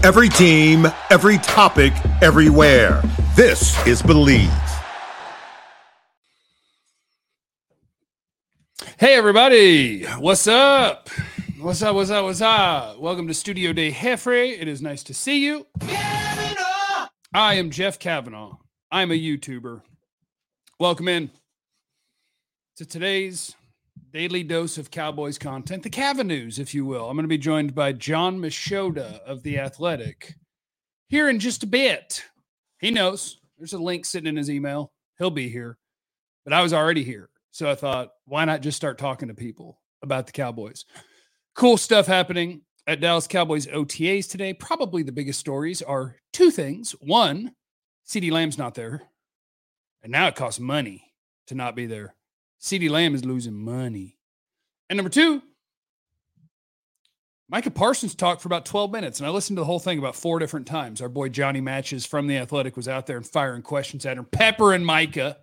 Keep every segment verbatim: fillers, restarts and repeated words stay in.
Every team, every topic, everywhere. This is Believe. Hey, everybody. What's up? What's up? What's up? What's up? Welcome to Studio Day Jeffrey. It is nice to see you. Kavanaugh. I am Jeff Kavanaugh. I'm a YouTuber. Welcome in to today's daily dose of Cowboys content, the Cavanews, if you will. I'm going to be joined by Jon Machota of The Athletic here in just a bit. He knows. There's a link sitting in his email. He'll be here. But I was already here. So I thought, why not just start talking to people about the Cowboys? Cool stuff happening at Dallas Cowboys O T As today. Probably the biggest stories are two things. One, CeeDee Lamb's not there. And now it costs money to not be there. CeeDee Lamb is losing money. And number two, Micah Parsons talked for about twelve minutes, and I listened to the whole thing about four different times. Our boy Johnny Matches from The Athletic was out there and firing questions at him, peppering Micah.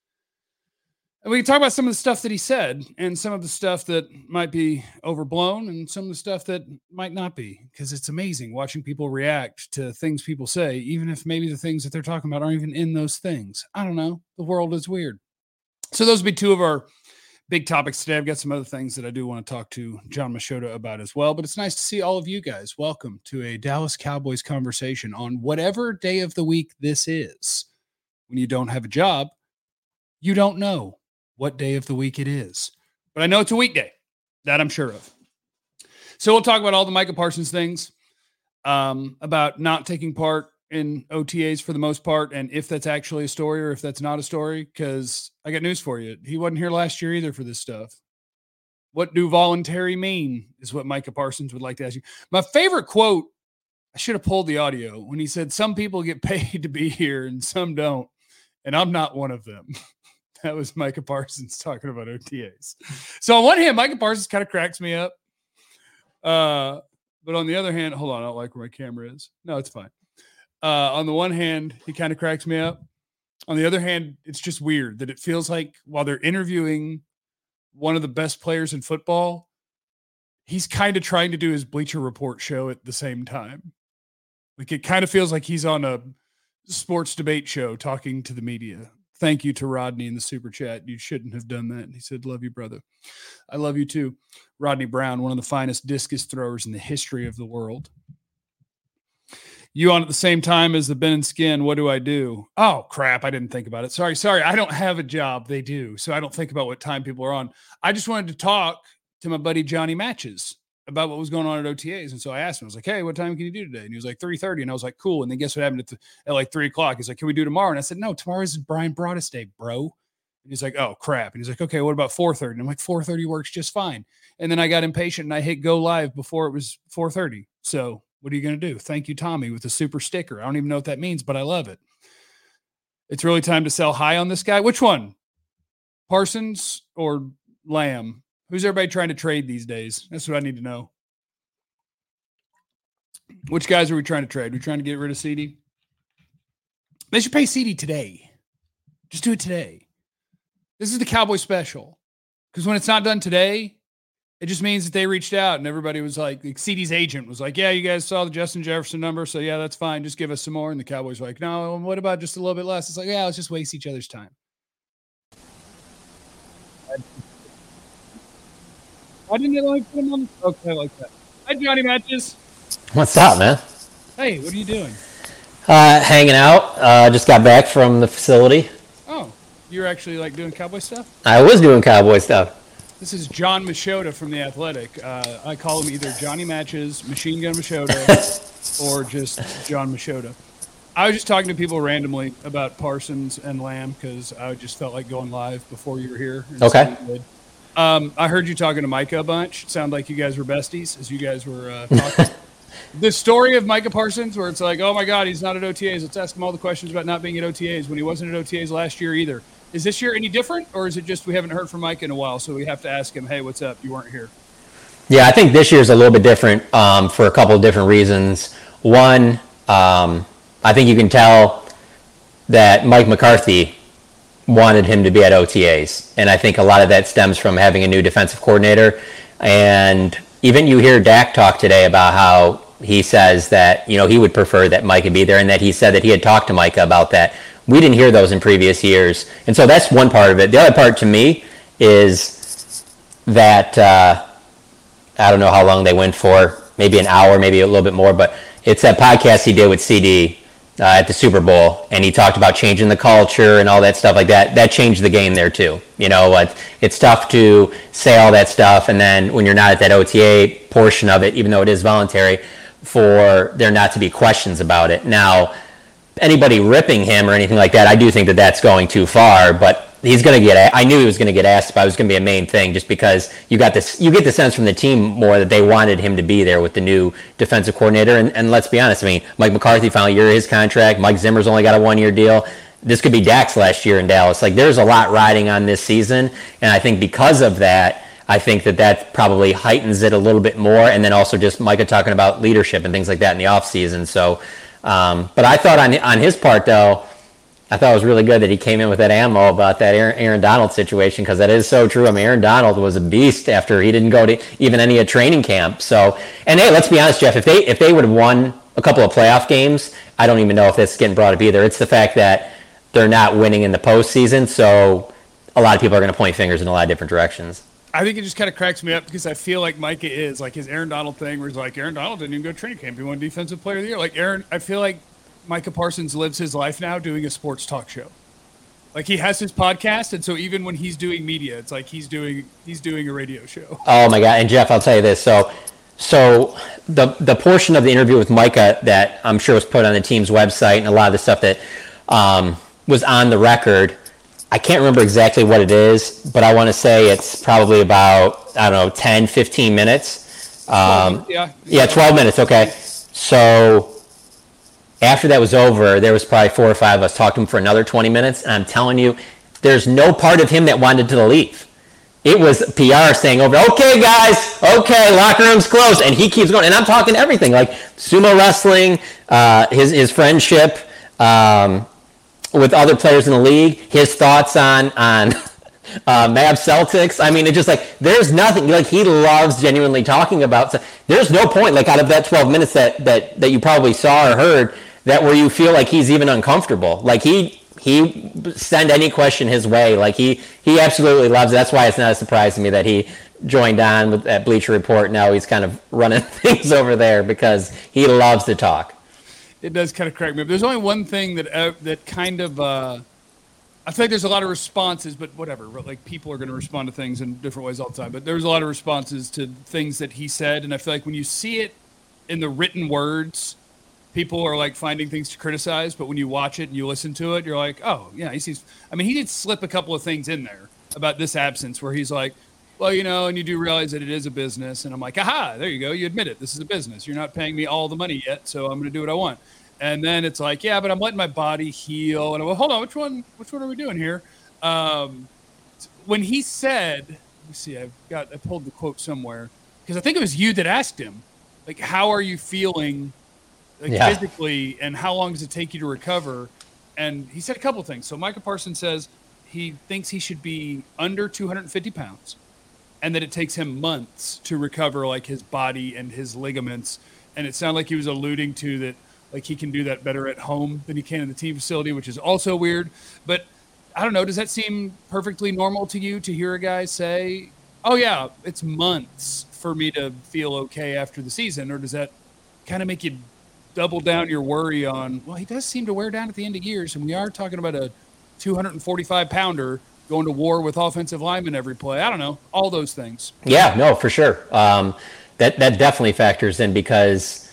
And we can talk about some of the stuff that he said and some of the stuff that might be overblown and some of the stuff that might not be, because it's amazing watching people react to things people say, even if maybe the things that they're talking about aren't even in those things. I don't know. The world is weird. So those would be two of our big topics today. I've got some other things that I do want to talk to Jon Machota about as well, but it's nice to see all of you guys. Welcome to a Dallas Cowboys conversation on whatever day of the week this is. When you don't have a job, you don't know what day of the week it is, but I know it's a weekday. That I'm sure of. So we'll talk about all the Micah Parsons things, um, about not taking part in O T As for the most part, and if that's actually a story or if that's not a story, because I got news for you. He wasn't here last year either for this stuff. What do voluntary mean is what Micah Parsons would like to ask you. My favorite quote, I should have pulled the audio, when he said, some people get paid to be here and some don't, and I'm not one of them. That was Micah Parsons talking about O T As. So on one hand, Micah Parsons kind of cracks me up. Uh, but on the other hand, hold on, I don't like where my camera is. No, it's fine. Uh, on the one hand, he kind of cracks me up. On the other hand, it's just weird that it feels like while they're interviewing one of the best players in football, he's kind of trying to do his Bleacher Report show at the same time. Like it kind of feels like he's on a sports debate show talking to the media. Thank you to Rodney in the super chat. You shouldn't have done that. And he said, love you, brother. I love you too. Rodney Brown, one of the finest discus throwers in the history of the world. You on at the same time as the Ben and Skin. What do I do? Oh, crap. I didn't think about it. Sorry. Sorry. I don't have a job. They do. So I don't think about what time people are on. I just wanted to talk to my buddy Johnny Matches about what was going on at O T As. And so I asked him, I was like, hey, what time can you do today? And he was like, three thirty. And I was like, cool. And then guess what happened at, the, at like three o'clock? He's like, can we do tomorrow? And I said, no, tomorrow is Brian Broaddus Day, bro. And he's like, oh, crap. And he's like, okay, what about four thirty? And I'm like, four thirty works just fine. And then I got impatient and I hit go live before it was four thirty. So what are you going to do? Thank you, Tommy, with a super sticker. I don't even know what that means, but I love it. It's really time to sell high on this guy. Which one? Parsons or Lamb? Who's everybody trying to trade these days? That's what I need to know. Which guys are we trying to trade? Are we trying to get rid of CeeDee? They should pay CeeDee today. Just do it today. This is the Cowboy special. Because when it's not done today, it just means that they reached out and everybody was like, like CeeDee's agent was like, yeah, you guys saw the Justin Jefferson number. So yeah, that's fine. Just give us some more. And the Cowboys were like, no, what about just a little bit less? It's like, yeah, let's just waste each other's time. Why didn't you like put him on? Okay, like that. Hi, Johnny Matches. What's up, man? Hey, what are you doing? Uh, hanging out. Uh, just got back from the facility. Oh, you're actually like doing Cowboy stuff? I was doing Cowboy stuff. This is Jon Machota from The Athletic. Uh, I call him either Johnny Matches, Machine Gun Machota, or just Jon Machota. I was just talking to people randomly about Parsons and Lamb because I just felt like going live before you were here. Okay. Um, I heard you talking to Micah a bunch. It sounded like you guys were besties as you guys were uh, talking. The story of Micah Parsons where it's like, oh, my God, he's not at O T As. Let's ask him all the questions about not being at O T As when he wasn't at O T As last year either. Is this year any different, or is it just we haven't heard from Mike in a while, so we have to ask him, hey, what's up? You weren't here. Yeah, I think this year's a little bit different um, for a couple of different reasons. One, um, I think you can tell that Mike McCarthy wanted him to be at O T As, and I think a lot of that stems from having a new defensive coordinator. And even you hear Dak talk today about how he says that, you know, he would prefer that Micah be there, and that he said that he had talked to Micah about that. We didn't hear those in previous years. And so that's one part of it. The other part to me is that, uh, I don't know how long they went for, maybe an hour, maybe a little bit more, but it's that podcast he did with C D uh, at the Super Bowl, and he talked about changing the culture and all that stuff like that. That changed the game there too. You know, uh, it's tough to say all that stuff, and then when you're not at that O T A portion of it, even though it is voluntary, for there not to be questions about it. Now, anybody ripping him or anything like that, I do think that that's going too far, but he's going to get, I knew he was going to get asked about it. It was going to be a main thing, just because you got this, you get the sense from the team more that they wanted him to be there with the new defensive coordinator. And, and let's be honest, I mean, Mike McCarthy final year of his contract. Mike Zimmer's only got a one-year deal. This could be Dak's last year in Dallas. Like, there's a lot riding on this season, and I think because of that, I think that that probably heightens it a little bit more. And then also just Micah talking about leadership and things like that in the offseason. So, um, but I thought on on his part, though, I thought it was really good that he came in with that ammo about that Aaron, Aaron Donald situation, because that is so true. I mean, Aaron Donald was a beast after he didn't go to even any of training camp. So, and hey, let's be honest, Jeff, if they if they would have won a couple of playoff games, I don't even know if that's getting brought up either. It's the fact that they're not winning in the postseason, so a lot of people are going to point fingers in a lot of different directions. I think it just kind of cracks me up because I feel like Micah is like his Aaron Donald thing, where he's like, Aaron Donald didn't even go to training camp. He won Defensive Player of the Year. Like Aaron, I feel like Micah Parsons lives his life now doing a sports talk show. Like, he has his podcast, and so even when he's doing media, it's like he's doing he's doing a radio show. Oh my God! And Jeff, I'll tell you this. So, so the the portion of the interview with Micah that I'm sure was put on the team's website, and a lot of the stuff that um, was on the record, I can't remember exactly what it is, but I want to say it's probably about, I don't know, ten, fifteen minutes. Um, yeah. Yeah, twelve minutes. Okay. So after that was over, there was probably four or five of us talked to him for another twenty minutes. And I'm telling you, there's no part of him that wanted to leave. It was P R saying over, okay, guys, okay, locker room's closed. And he keeps going. And I'm talking everything, like sumo wrestling, uh, his, his friendship, um, with other players in the league, his thoughts on on uh, Mavs Celtics. I mean, it's just like, there's nothing, like, he loves genuinely talking about. So there's no point, like, out of that twelve minutes that that that you probably saw or heard, that where you feel like he's even uncomfortable. Like, he he send any question his way. Like, he he absolutely loves it. That's why it's not a surprise to me that he joined on with that Bleacher Report. Now he's kind of running things over there because he loves to talk. It does kind of crack me up. There's only one thing that uh, that kind of uh, I feel like there's a lot of responses, but whatever. Like, people are going to respond to things in different ways all the time. But there's a lot of responses to things that he said, and I feel like when you see it in the written words, people are like finding things to criticize. But when you watch it and you listen to it, you're like, oh yeah, he sees. I mean, he did slip a couple of things in there about this absence, where he's like, well, you know, and you do realize that it is a business. And I'm like, aha, there you go. You admit it. This is a business. You're not paying me all the money yet, so I'm going to do what I want. And then it's like, yeah, but I'm letting my body heal. And I'm like, hold on, which one, which one are we doing here? Um, when he said, let me see, I've got, I pulled the quote somewhere, because I think it was you that asked him, like, how are you feeling, like, yeah. physically, and how long does it take you to recover? And he said a couple of things. So Micah Parsons says he thinks he should be under two hundred fifty pounds. And that it takes him months to recover, like, his body and his ligaments. And it sounded like he was alluding to that, like, he can do that better at home than he can in the team facility, which is also weird. But I don't know, does that seem perfectly normal to you to hear a guy say, oh yeah, it's months for me to feel okay after the season? Or does that kind of make you double down your worry on, well, he does seem to wear down at the end of years, and we are talking about a two hundred forty-five pounder going to war with offensive linemen every play. I don't know, all those things. Yeah, no, for sure. Um, that that definitely factors in, because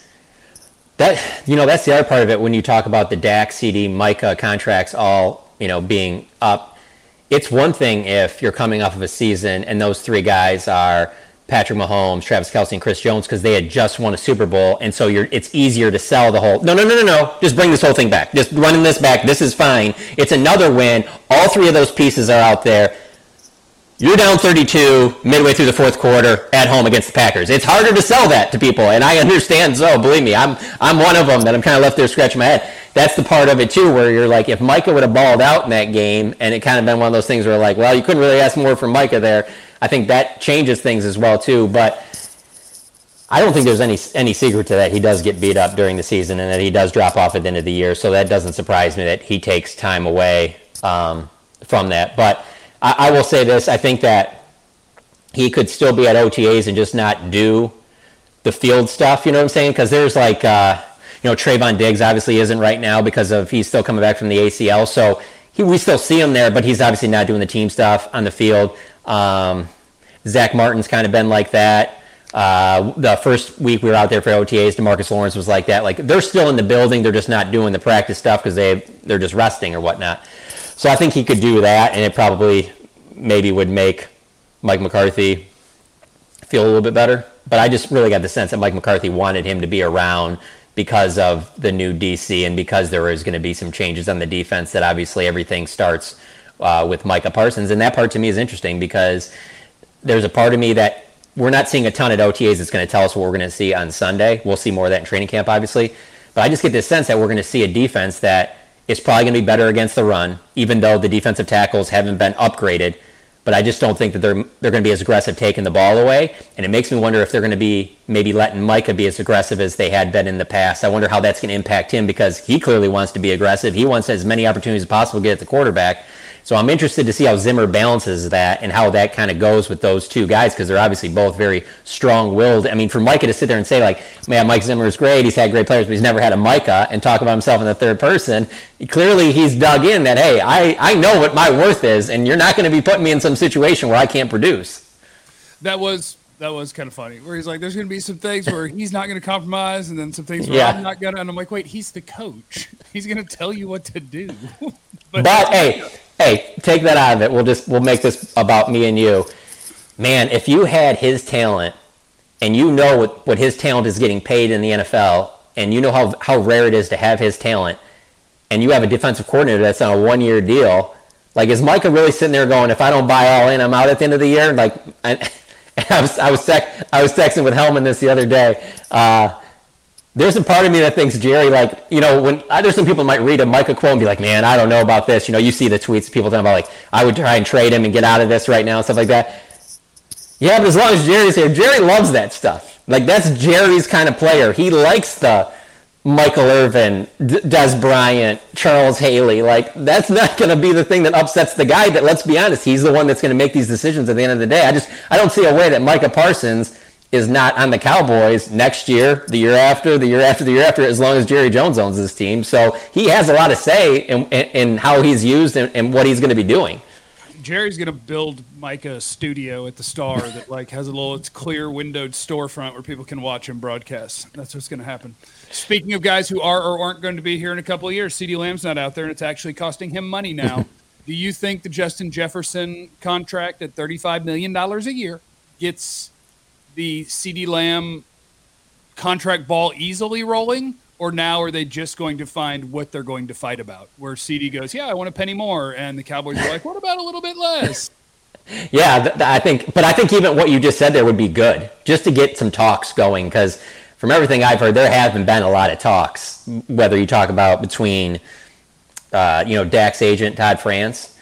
that, you know, that's the other part of it when you talk about the Dak, C D, Micah contracts all, you know, being up. It's one thing if you're coming off of a season and those three guys are Patrick Mahomes, Travis Kelce, and Chris Jones, because they had just won a Super Bowl, and so you're it's easier to sell the whole, no, no, no, no, no, just bring this whole thing back. Just running this back, this is fine. It's another win. All three of those pieces are out there. You're down thirty-two midway through the fourth quarter at home against the Packers. It's harder to sell that to people, and I understand so. Believe me, I'm I'm one of them that I'm kind of left there scratching my head. That's the part of it, too, where you're like, if Micah would have balled out in that game, and it kind of been one of those things where, like, well, you couldn't really ask more from Micah there, I think that changes things as well, too. But I don't think there's any any secret to that. He does get beat up during the season, and that he does drop off at the end of the year. So that doesn't surprise me that he takes time away um, from that. But I, I will say this: I think that he could still be at O T As and just not do the field stuff. You know what I'm saying? Because there's like, uh, you know, Trayvon Diggs obviously isn't right now because of he's still coming back from the A C L. So he, we still see him there, but he's obviously not doing the team stuff on the field. Um, Zach Martin's kind of been like that. Uh, the first week we were out there for O T As, DeMarcus Lawrence was like that. Like they're still in the building, they're just not doing the practice stuff because they they're just resting or whatnot. So I think he could do that, and it probably maybe would make Mike McCarthy feel a little bit better. But I just really got the sense that Mike McCarthy wanted him to be around because of the new D C and because there was going to be some changes on the defense. That obviously everything starts uh, with Micah Parsons, and that part to me is interesting because there's a part of me that we're not seeing a ton at O T As that's going to tell us what we're going to see on Sunday. We'll see more of that in training camp, obviously. But I just get this sense that we're going to see a defense that is probably going to be better against the run, even though the defensive tackles haven't been upgraded. But I just don't think that they're they're going to be as aggressive taking the ball away. And it makes me wonder if they're going to be maybe letting Micah be as aggressive as they had been in the past. I wonder how that's going to impact him because he clearly wants to be aggressive. He wants as many opportunities as possible to get at the quarterback. So I'm interested to see how Zimmer balances that and how that kind of goes with those two guys because they're obviously both very strong-willed. I mean, for Micah to sit there and say, like, man, Mike Zimmer is great, he's had great players, but he's never had a Micah, and talk about himself in the third person, clearly he's dug in that, hey, I, I know what my worth is, and you're not going to be putting me in some situation where I can't produce. That was that was kind of funny, where he's like, there's going to be some things where he's not going to compromise, and then some things where yeah. I'm not going to, and I'm like, wait, he's the coach. He's going to tell you what to do. but, but hey, Hey, take that out of it. We'll just we'll make this about me and you. Man, if you had his talent and you know what, what his talent is getting paid in the N F L and you know how, how rare it is to have his talent and you have a defensive coordinator that's on a one-year deal, like is Micah really sitting there going, if I don't buy all in, I'm out at the end of the year? Like, I, I was I was, tec- I was texting with Hellman this the other day. Uh, There's a part of me that thinks Jerry, like, you know, when uh, there's some people might read a Micah quote and be like, man, I don't know about this. You know, you see the tweets, people talking about, like, I would try and trade him and get out of this right now and stuff like that. Yeah, but as long as Jerry's here, Jerry loves that stuff. Like, that's Jerry's kind of player. He likes the Michael Irvin, D- Des Bryant, Charles Haley. Like, that's not going to be the thing that upsets the guy that, let's be honest, he's the one that's going to make these decisions at the end of the day. I just, I don't see a way that Micah Parsons is not on the Cowboys next year, the year after, the year after, the year after, as long as Jerry Jones owns this team. So he has a lot of say in, in, in how he's used and, and what he's going to be doing. Jerry's going to build Micah a studio at the Star that like has a little it's clear windowed storefront where people can watch him broadcast. That's what's going to happen. Speaking of guys who are or aren't going to be here in a couple of years, CeeDee Lamb's not out there, and it's actually costing him money now. Do you think the Justin Jefferson contract at thirty-five million dollars a year gets the CeeDee Lamb contract ball easily rolling, or now are they just going to find what they're going to fight about? Where CeeDee goes, yeah, I want a penny more, and the Cowboys are like, what about a little bit less? Yeah, th- th- I think, but I think even what you just said there would be good, just to get some talks going, because from everything I've heard, there haven't been a lot of talks, whether you talk about between, uh, you know, Dak's agent, Todd France,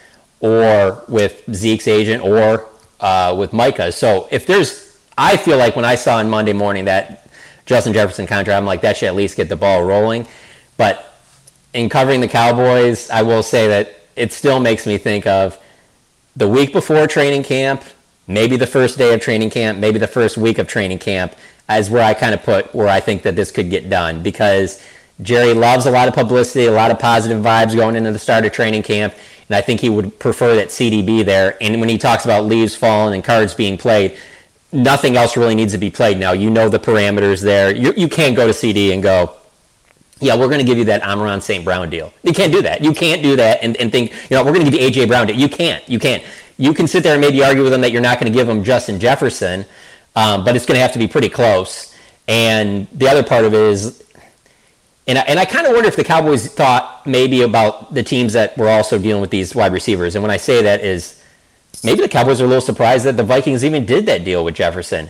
or with Zeke's agent, or uh, with Micah. So if there's, I feel like when I saw on Monday morning that Justin Jefferson contract, I'm like, that should at least get the ball rolling. But in covering the Cowboys, I will say that it still makes me think of the week before training camp, maybe the first day of training camp, maybe the first week of training camp, as where I kind of put where I think that this could get done. Because Jerry loves a lot of publicity, a lot of positive vibes going into the start of training camp. And I think he would prefer that C D be there. And when he talks about leaves falling and cards being played, nothing else really needs to be played now. You know the parameters there. You you can't go to C D and go, yeah, we're going to give you that Amon Saint Brown deal. You can't do that. You can't do that and, and think, you know, we're going to give you A J Brown deal. You can't. You can't. You can sit there and maybe argue with them that you're not going to give them Justin Jefferson, um, but it's going to have to be pretty close. And the other part of it is, and I, and I kind of wonder if the Cowboys thought maybe about the teams that were also dealing with these wide receivers. And when I say that is, maybe the Cowboys are a little surprised that the Vikings even did that deal with Jefferson.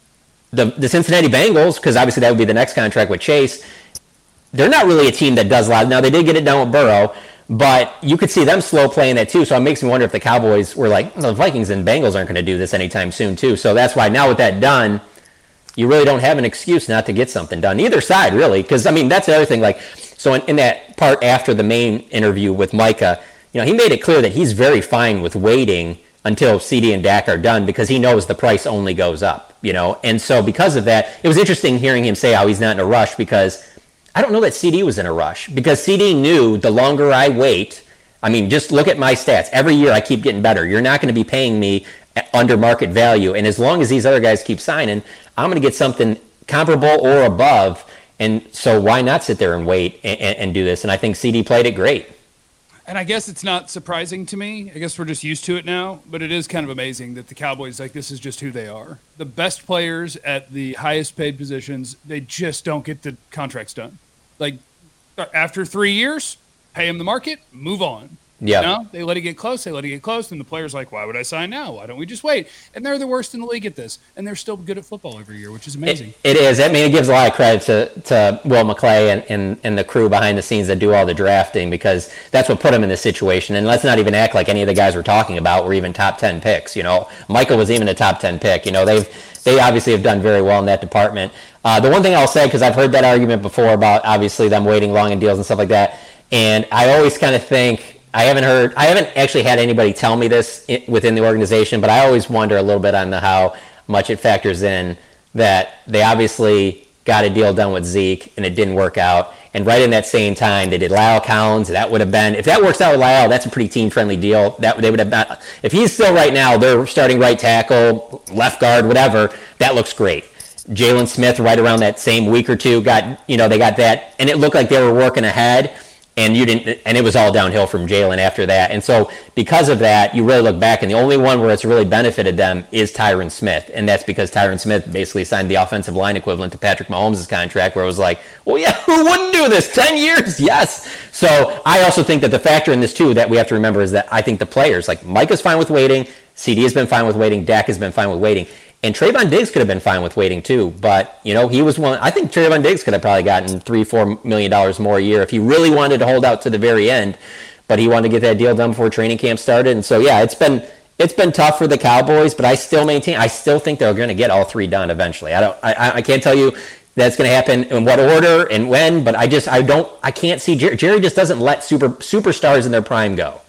The the Cincinnati Bengals, because obviously that would be the next contract with Chase, they're not really a team that does a lot. Now, they did get it done with Burrow, but you could see them slow playing that too. So it makes me wonder if the Cowboys were like, the Vikings and Bengals aren't going to do this anytime soon too. So that's why now with that done, you really don't have an excuse not to get something done. Either side, really, because, I mean, that's the other thing. Like, so in, in that part after the main interview with Micah, you know, he made it clear that he's very fine with waiting until C D and Dak are done because he knows the price only goes up, you know. And so because of that, it was interesting hearing him say how he's not in a rush because I don't know that C D was in a rush because C D knew the longer I wait, I mean, just look at my stats. Every year I keep getting better. You're not going to be paying me under market value. And as long as these other guys keep signing, I'm going to get something comparable or above. And so why not sit there and wait and, and do this? And I think C D played it great. And I guess it's not surprising to me. I guess we're just used to it now. But it is kind of amazing that the Cowboys, like, this is just who they are. The best players at the highest paid positions, they just don't get the contracts done. Like, after three years, pay them the market, move on. Yeah. You know? They let it get close. They let it get close. And the player's like, why would I sign now? Why don't we just wait? And they're the worst in the league at this. And they're still good at football every year, which is amazing. It, it is. I mean, it gives a lot of credit to, to Will McClay and, and, and the crew behind the scenes that do all the drafting because that's what put them in this situation. And let's not even act like any of the guys we're talking about were even top ten picks. You know, Michael was even a top ten pick. You know, they've they obviously have done very well in that department. Uh, the one thing I'll say, because I've heard that argument before about obviously them waiting long in deals and stuff like that, and I always kind of think, I haven't heard, I haven't actually had anybody tell me this within the organization, but I always wonder a little bit on the how much it factors in that they obviously got a deal done with Zeke and it didn't work out. And right in that same time, they did La'el Collins. That would have been, if that works out with La'el, that's a pretty team-friendly deal. That they would have been, if he's still right now, they're starting right tackle, left guard, whatever, that looks great. Jalen Smith, right around that same week or two, got, you know, they got that, and it looked like they were working ahead. And you didn't, and it was all downhill from Jalen after that. And so because of that, you really look back, and the only one where it's really benefited them is Tyron Smith. And that's because Tyron Smith basically signed the offensive line equivalent to Patrick Mahomes' contract, where it was like, well, yeah, who wouldn't do this? ten years, yes. So I also think that the factor in this, too, that we have to remember is that I think the players, like Micah's fine with waiting, C D has been fine with waiting, Dak has been fine with waiting. And Trayvon Diggs could have been fine with waiting too, but you know he was one. I think Trayvon Diggs could have probably gotten three, four million dollars more a year if he really wanted to hold out to the very end. But he wanted to get that deal done before training camp started, and so yeah, it's been it's been tough for the Cowboys. But I still maintain, I still think they're going to get all three done eventually. I don't, I, I can't tell you that's going to happen in what order and when, but I just, I don't, I can't see Jerry, Jerry just doesn't let super superstars in their prime go.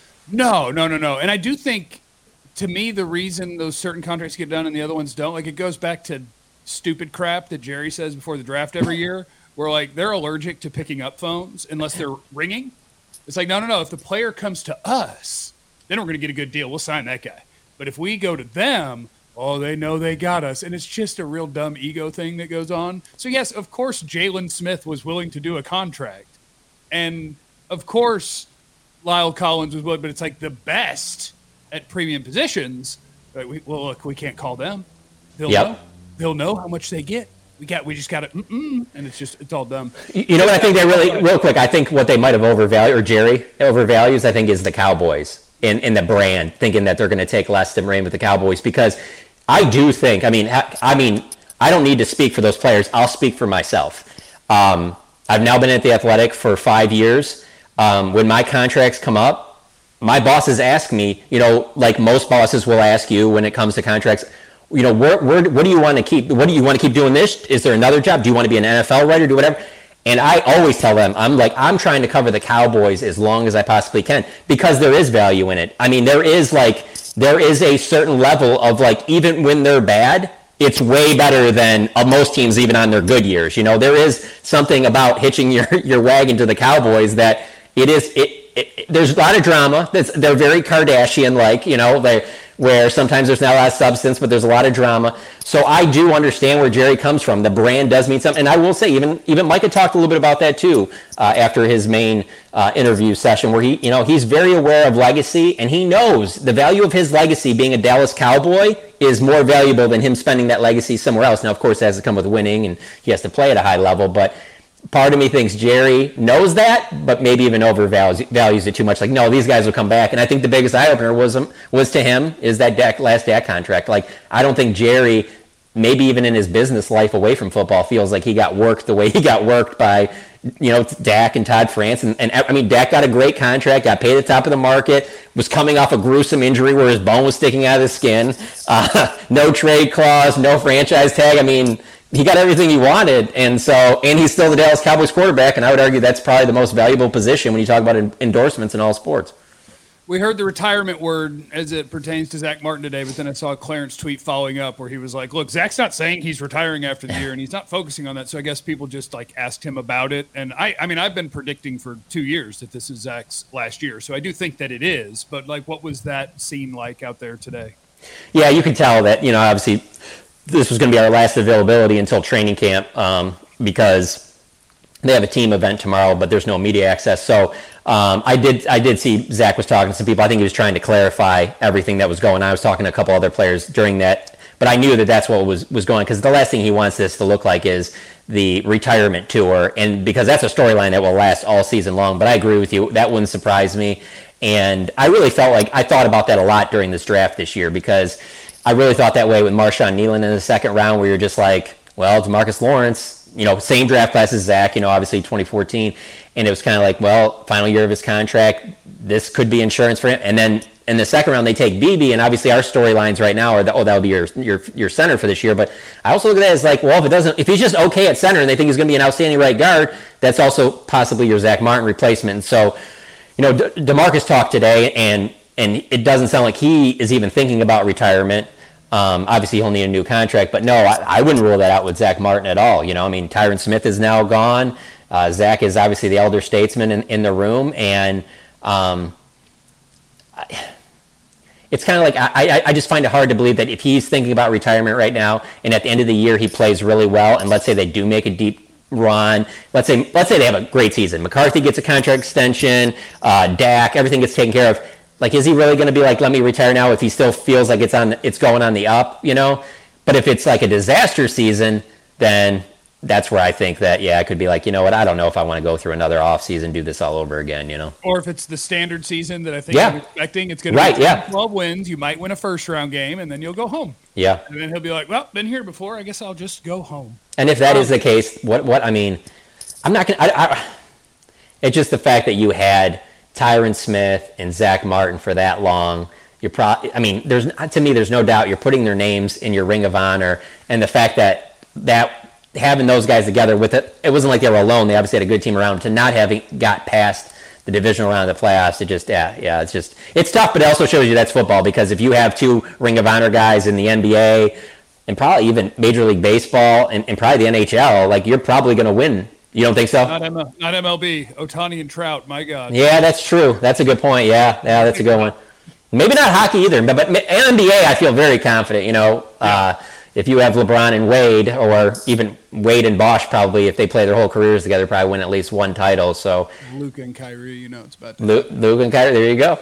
No, no, no, no, and I do think. To me, the reason those certain contracts get done and the other ones don't, like it goes back to stupid crap that Jerry says before the draft every year, where like they're allergic to picking up phones unless they're ringing. It's like, no, no, no. If the player comes to us, then we're going to get a good deal. We'll sign that guy. But if we go to them, oh, they know they got us. And it's just a real dumb ego thing that goes on. So, yes, of course, Jalen Smith was willing to do a contract. And, of course, La'el Collins was willing, but it's like the best at premium positions, but we, well, look, we can't call them. They'll yep. know. They'll know how much they get. We got. We just got to, mm-mm, and it's just it's all dumb. You know what I think they really, real quick. I think what they might have overvalued, or Jerry overvalues, I think, is the Cowboys in in the brand, thinking that they're going to take less than reign with the Cowboys. Because I do think. I mean, I mean, I don't need to speak for those players. I'll speak for myself. Um, I've now been at the Athletic for five years. Um, when my contracts come up, my bosses ask me, you know, like most bosses will ask you when it comes to contracts, you know, where, where, what do you want to keep? What do you want to keep doing this? Is there another job? Do you want to be an N F L writer? Do whatever. And I always tell them, I'm like, I'm trying to cover the Cowboys as long as I possibly can because there is value in it. I mean, there is like, there is a certain level of like, even when they're bad, it's way better than uh, most teams, even on their good years. You know, there is something about hitching your, your wagon to the Cowboys that it is, it, It, it, there's a lot of drama. That's, they're very Kardashian-like, you know, they, where sometimes there's not a lot of substance, but there's a lot of drama. So I do understand where Jerry comes from. The brand does mean something. And I will say, even even Micah talked a little bit about that, too, uh, after his main uh, interview session, where he, you know, he's very aware of legacy, and he knows the value of his legacy being a Dallas Cowboy is more valuable than him spending that legacy somewhere else. Now, of course, it has to come with winning, and he has to play at a high level, but part of me thinks Jerry knows that, but maybe even overvalues values it too much. Like, no, these guys will come back. And I think the biggest eye-opener was was to him is that Dak, last Dak contract. Like, I don't think Jerry, maybe even in his business life away from football, feels like he got worked the way he got worked by you know, Dak and Todd France. And, and I mean, Dak got a great contract, got paid at the top of the market, was coming off a gruesome injury where his bone was sticking out of his skin. Uh, no trade clause, no franchise tag. I mean, he got everything he wanted. And so, and he's still the Dallas Cowboys quarterback. And I would argue that's probably the most valuable position when you talk about endorsements in all sports. We heard the retirement word as it pertains to Zach Martin today, but then I saw a Clarence tweet following up where he was like, look, Zach's not saying he's retiring after the year, and he's not focusing on that. So I guess people just like asked him about it. And I, I mean, I've been predicting for two years that this is Zach's last year. So I do think that it is, but like, what was that scene like out there today? Yeah, you can tell that, you know, obviously this was going to be our last availability until training camp um, because they have a team event tomorrow, but there's no media access. So um, I did I did see Zach was talking to some people. I think he was trying to clarify everything that was going on. I was talking to a couple other players during that, but I knew that that's what was, was going, because the last thing he wants this to look like is the retirement tour, and because that's a storyline that will last all season long. But I agree with you. That wouldn't surprise me. And I really felt like I thought about that a lot during this draft this year, because I really thought that way with Marshawn Nealon in the second round, where you're just like, well, DeMarcus Lawrence, you know, same draft class as Zach, you know, obviously twenty fourteen. And it was kind of like, well, final year of his contract, this could be insurance for him. And then in the second round, they take B B, and obviously our storylines right now are that, oh, that'll be your, your your center for this year. But I also look at that as like, well, if it doesn't, if he's just okay at center and they think he's going to be an outstanding right guard, that's also possibly your Zach Martin replacement. And so, you know, De- DeMarcus talked today, and and it doesn't sound like he is even thinking about retirement. Um, obviously, he'll need a new contract, but no, I, I wouldn't rule that out with Zach Martin at all. You know, I mean, Tyron Smith is now gone. Uh, Zach is obviously the elder statesman in, in the room, and um, I, it's kind of like I, I, I just find it hard to believe that if he's thinking about retirement right now, and at the end of the year he plays really well, and let's say they do make a deep run, let's say let's say they have a great season, McCarthy gets a contract extension, uh, Dak, everything gets taken care of. Like, is he really going to be like, let me retire now, if he still feels like it's on, it's going on the up, you know? But if it's like a disaster season, then that's where I think that, yeah, I could be like, you know what, I don't know if I want to go through another off season, do this all over again, you know? Or if it's the standard season that I think yeah. I'm expecting, it's going to right, be yeah. twelve wins. You might win a first round game, and then you'll go home. Yeah. And then he'll be like, well, been here before. I guess I'll just go home. And if that um, is the case, what, what, I mean, I'm not going to, it's just the fact that you had Tyron Smith and Zach Martin for that long. You're pro- I mean, there's to me, there's no doubt you're putting their names in your ring of honor, and the fact that that having those guys together with it, it wasn't like they were alone. They obviously had a good team around them. To not having got past the divisional round of the playoffs, it just yeah, yeah, it's just it's tough. But it also shows you that's football, because if you have two ring of honor guys in the N B A and probably even Major League Baseball and, and probably the N H L, like, you're probably going to win. You don't think so? Not, M L, not M L B. Ohtani and Trout, my God. Yeah, that's true. That's a good point. Yeah, yeah, that's a good one. Maybe not hockey either, but, but N B A, I feel very confident. You know, yeah. uh, if you have LeBron and Wade, or even Wade and Bosch, probably, if they play their whole careers together, probably win at least one title. So Luka and Kyrie, you know, it's about to Luke, Luke and Kyrie. There you go.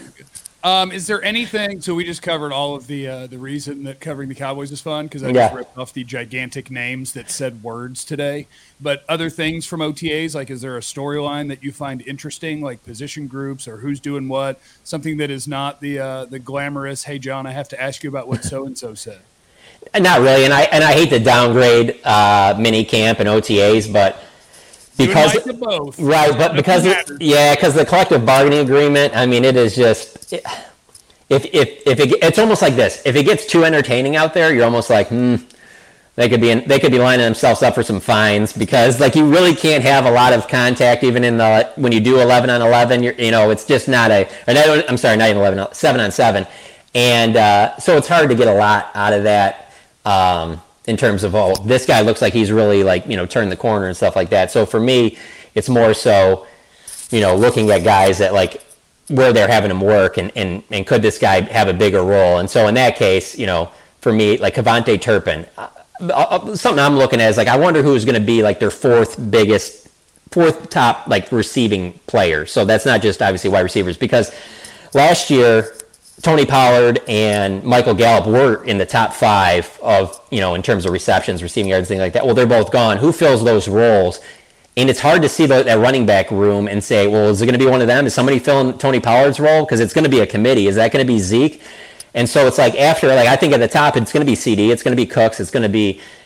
Um, is there anything? So we just covered all of the uh, the reason that covering the Cowboys is fun, because I yeah. just ripped off the gigantic names that said words today. But other things from O T As, like, is there a storyline that you find interesting, like position groups or who's doing what? Something that is not the uh, the glamorous. Hey, John, I have to ask you about what so and so said. Not really, and I and I hate to downgrade uh, mini camp and O T As, but. Because both. Right, but because it, yeah, because the collective bargaining agreement, I mean, it is just it, if if if it, it's almost like this. If it gets too entertaining out there, you're almost like, hmm, they could be in, they could be lining themselves up for some fines, because like you really can't have a lot of contact even in the when you do eleven on eleven. You're, you know, it's just not a. Or not, I'm sorry, not even eleven, seven on seven, and uh, so it's hard to get a lot out of that. Um, in terms of, oh, this guy looks like he's really, like, you know, turned the corner and stuff like that. So for me, it's more so, you know, looking at guys that, like, where they're having them work, and, and, and could this guy have a bigger role? And so in that case, you know, for me, like Kevontae Turpin, uh, something I'm looking at is, like, I wonder who's going to be, like, their fourth biggest, fourth top, like, receiving player. So that's not just, obviously, wide receivers, because last year, Tony Pollard and Michael Gallup were in the top five of, you know, in terms of receptions, receiving yards, things like that. Well, they're both gone. Who fills those roles? And it's hard to see the, that running back room and say, well, is it going to be one of them? Is somebody filling Tony Pollard's role? Because it's going to be a committee. Is that going to be Zeke? And so it's like after, like, I think at the top, it's going to be C D. It's going to be Cooks. It's going to be,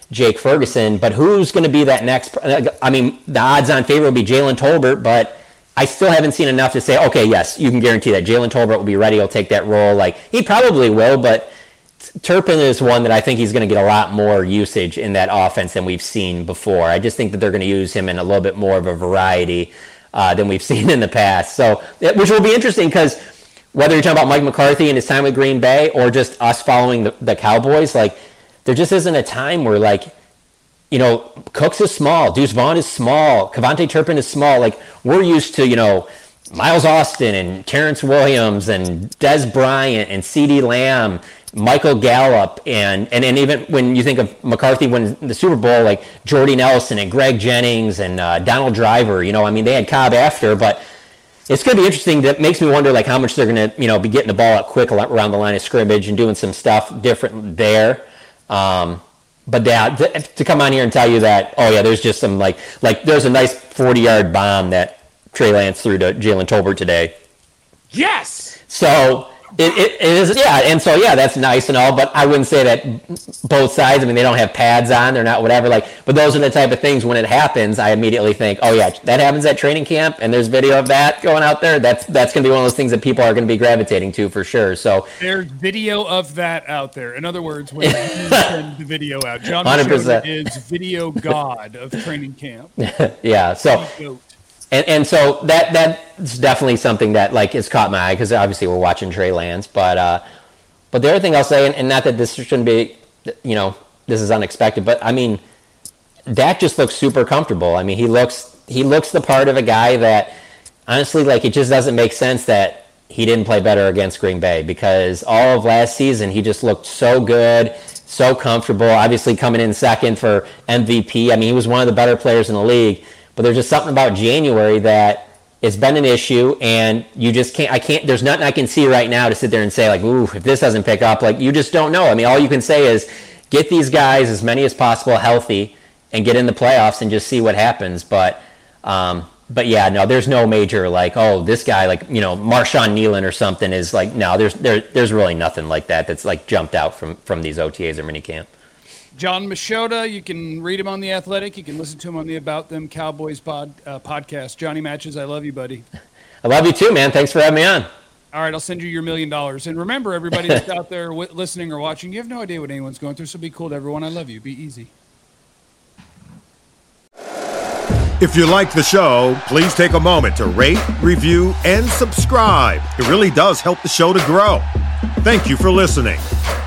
Jake Ferguson, but who's going to be that next? I mean, the odds-on favorite will be Jalen Tolbert, but I still haven't seen enough to say, okay, yes, you can guarantee that Jalen Tolbert will be ready. He'll take that role. Like, he probably will, but Turpin is one that I think he's going to get a lot more usage in that offense than we've seen before. I just think that they're going to use him in a little bit more of a variety uh, than we've seen in the past. So, which will be interesting because whether you're talking about Mike McCarthy and his time with Green Bay or just us following the, the Cowboys, like, there just isn't a time where, like, you know, Cooks is small, Deuce Vaughn is small, Kevontae Turpin is small. Like, we're used to, you know, Miles Austin and Terrence Williams and Des Bryant and CeeDee Lamb, Michael Gallup, and, and and even when you think of McCarthy winning the Super Bowl, like Jordy Nelson and Greg Jennings and uh, Donald Driver, you know, I mean, they had Cobb after, but it's going to be interesting. That makes me wonder, like, how much they're going to, you know, be getting the ball out quick around the line of scrimmage and doing some stuff different there. Um, but yeah, th- to come on here and tell you that, oh yeah, there's just some like, like there's a nice forty-yard bomb that Trey Lance threw to Jalen Tolbert today. Yes. So it, it, it is, yeah, and so yeah, that's nice and all, but I wouldn't say that both sides. I mean, they don't have pads on, they're not whatever. Like, but those are the type of things when it happens, I immediately think, oh yeah, that happens at training camp, and there's video of that going out there. That's that's going to be one of those things that people are going to be gravitating to for sure. So there's video of that out there. In other words, when you send the video out, John one hundred percent is video god of training camp. Yeah. So. And and so that that's definitely something that, like, has caught my eye because obviously we're watching Trey Lance, but uh, but the other thing I'll say, and, and not that this shouldn't be, you know, this is unexpected, but I mean, Dak just looks super comfortable. I mean, he looks he looks the part of a guy that, honestly, like, it just doesn't make sense that he didn't play better against Green Bay, because all of last season he just looked so good, so comfortable. Obviously coming in second for M V P. I mean, he was one of the better players in the league. But there's just something about January that it's been an issue, and you just can't, I can't, there's nothing I can see right now to sit there and say, like, ooh, if this doesn't pick up, like, you just don't know. I mean, all you can say is get these guys, as many as possible, healthy and get in the playoffs and just see what happens. But, um, but yeah, no, there's no major, like, oh, this guy, like, you know, Marshawn Nealon or something is like, no, there's, there, there's really nothing like that that's, like, jumped out from, from these O T As or minicamp. John Machota, you can read him on The Athletic. You can listen to him on the About Them Cowboys pod, uh, podcast. Johnny Matches, I love you, buddy. I love you too, man. Thanks for having me on. All right, I'll send you your million dollars. And remember, everybody that's out there w- listening or watching, you have no idea what anyone's going through, so be cool to everyone. I love you. Be easy. If you like the show, please take a moment to rate, review, and subscribe. It really does help the show to grow. Thank you for listening.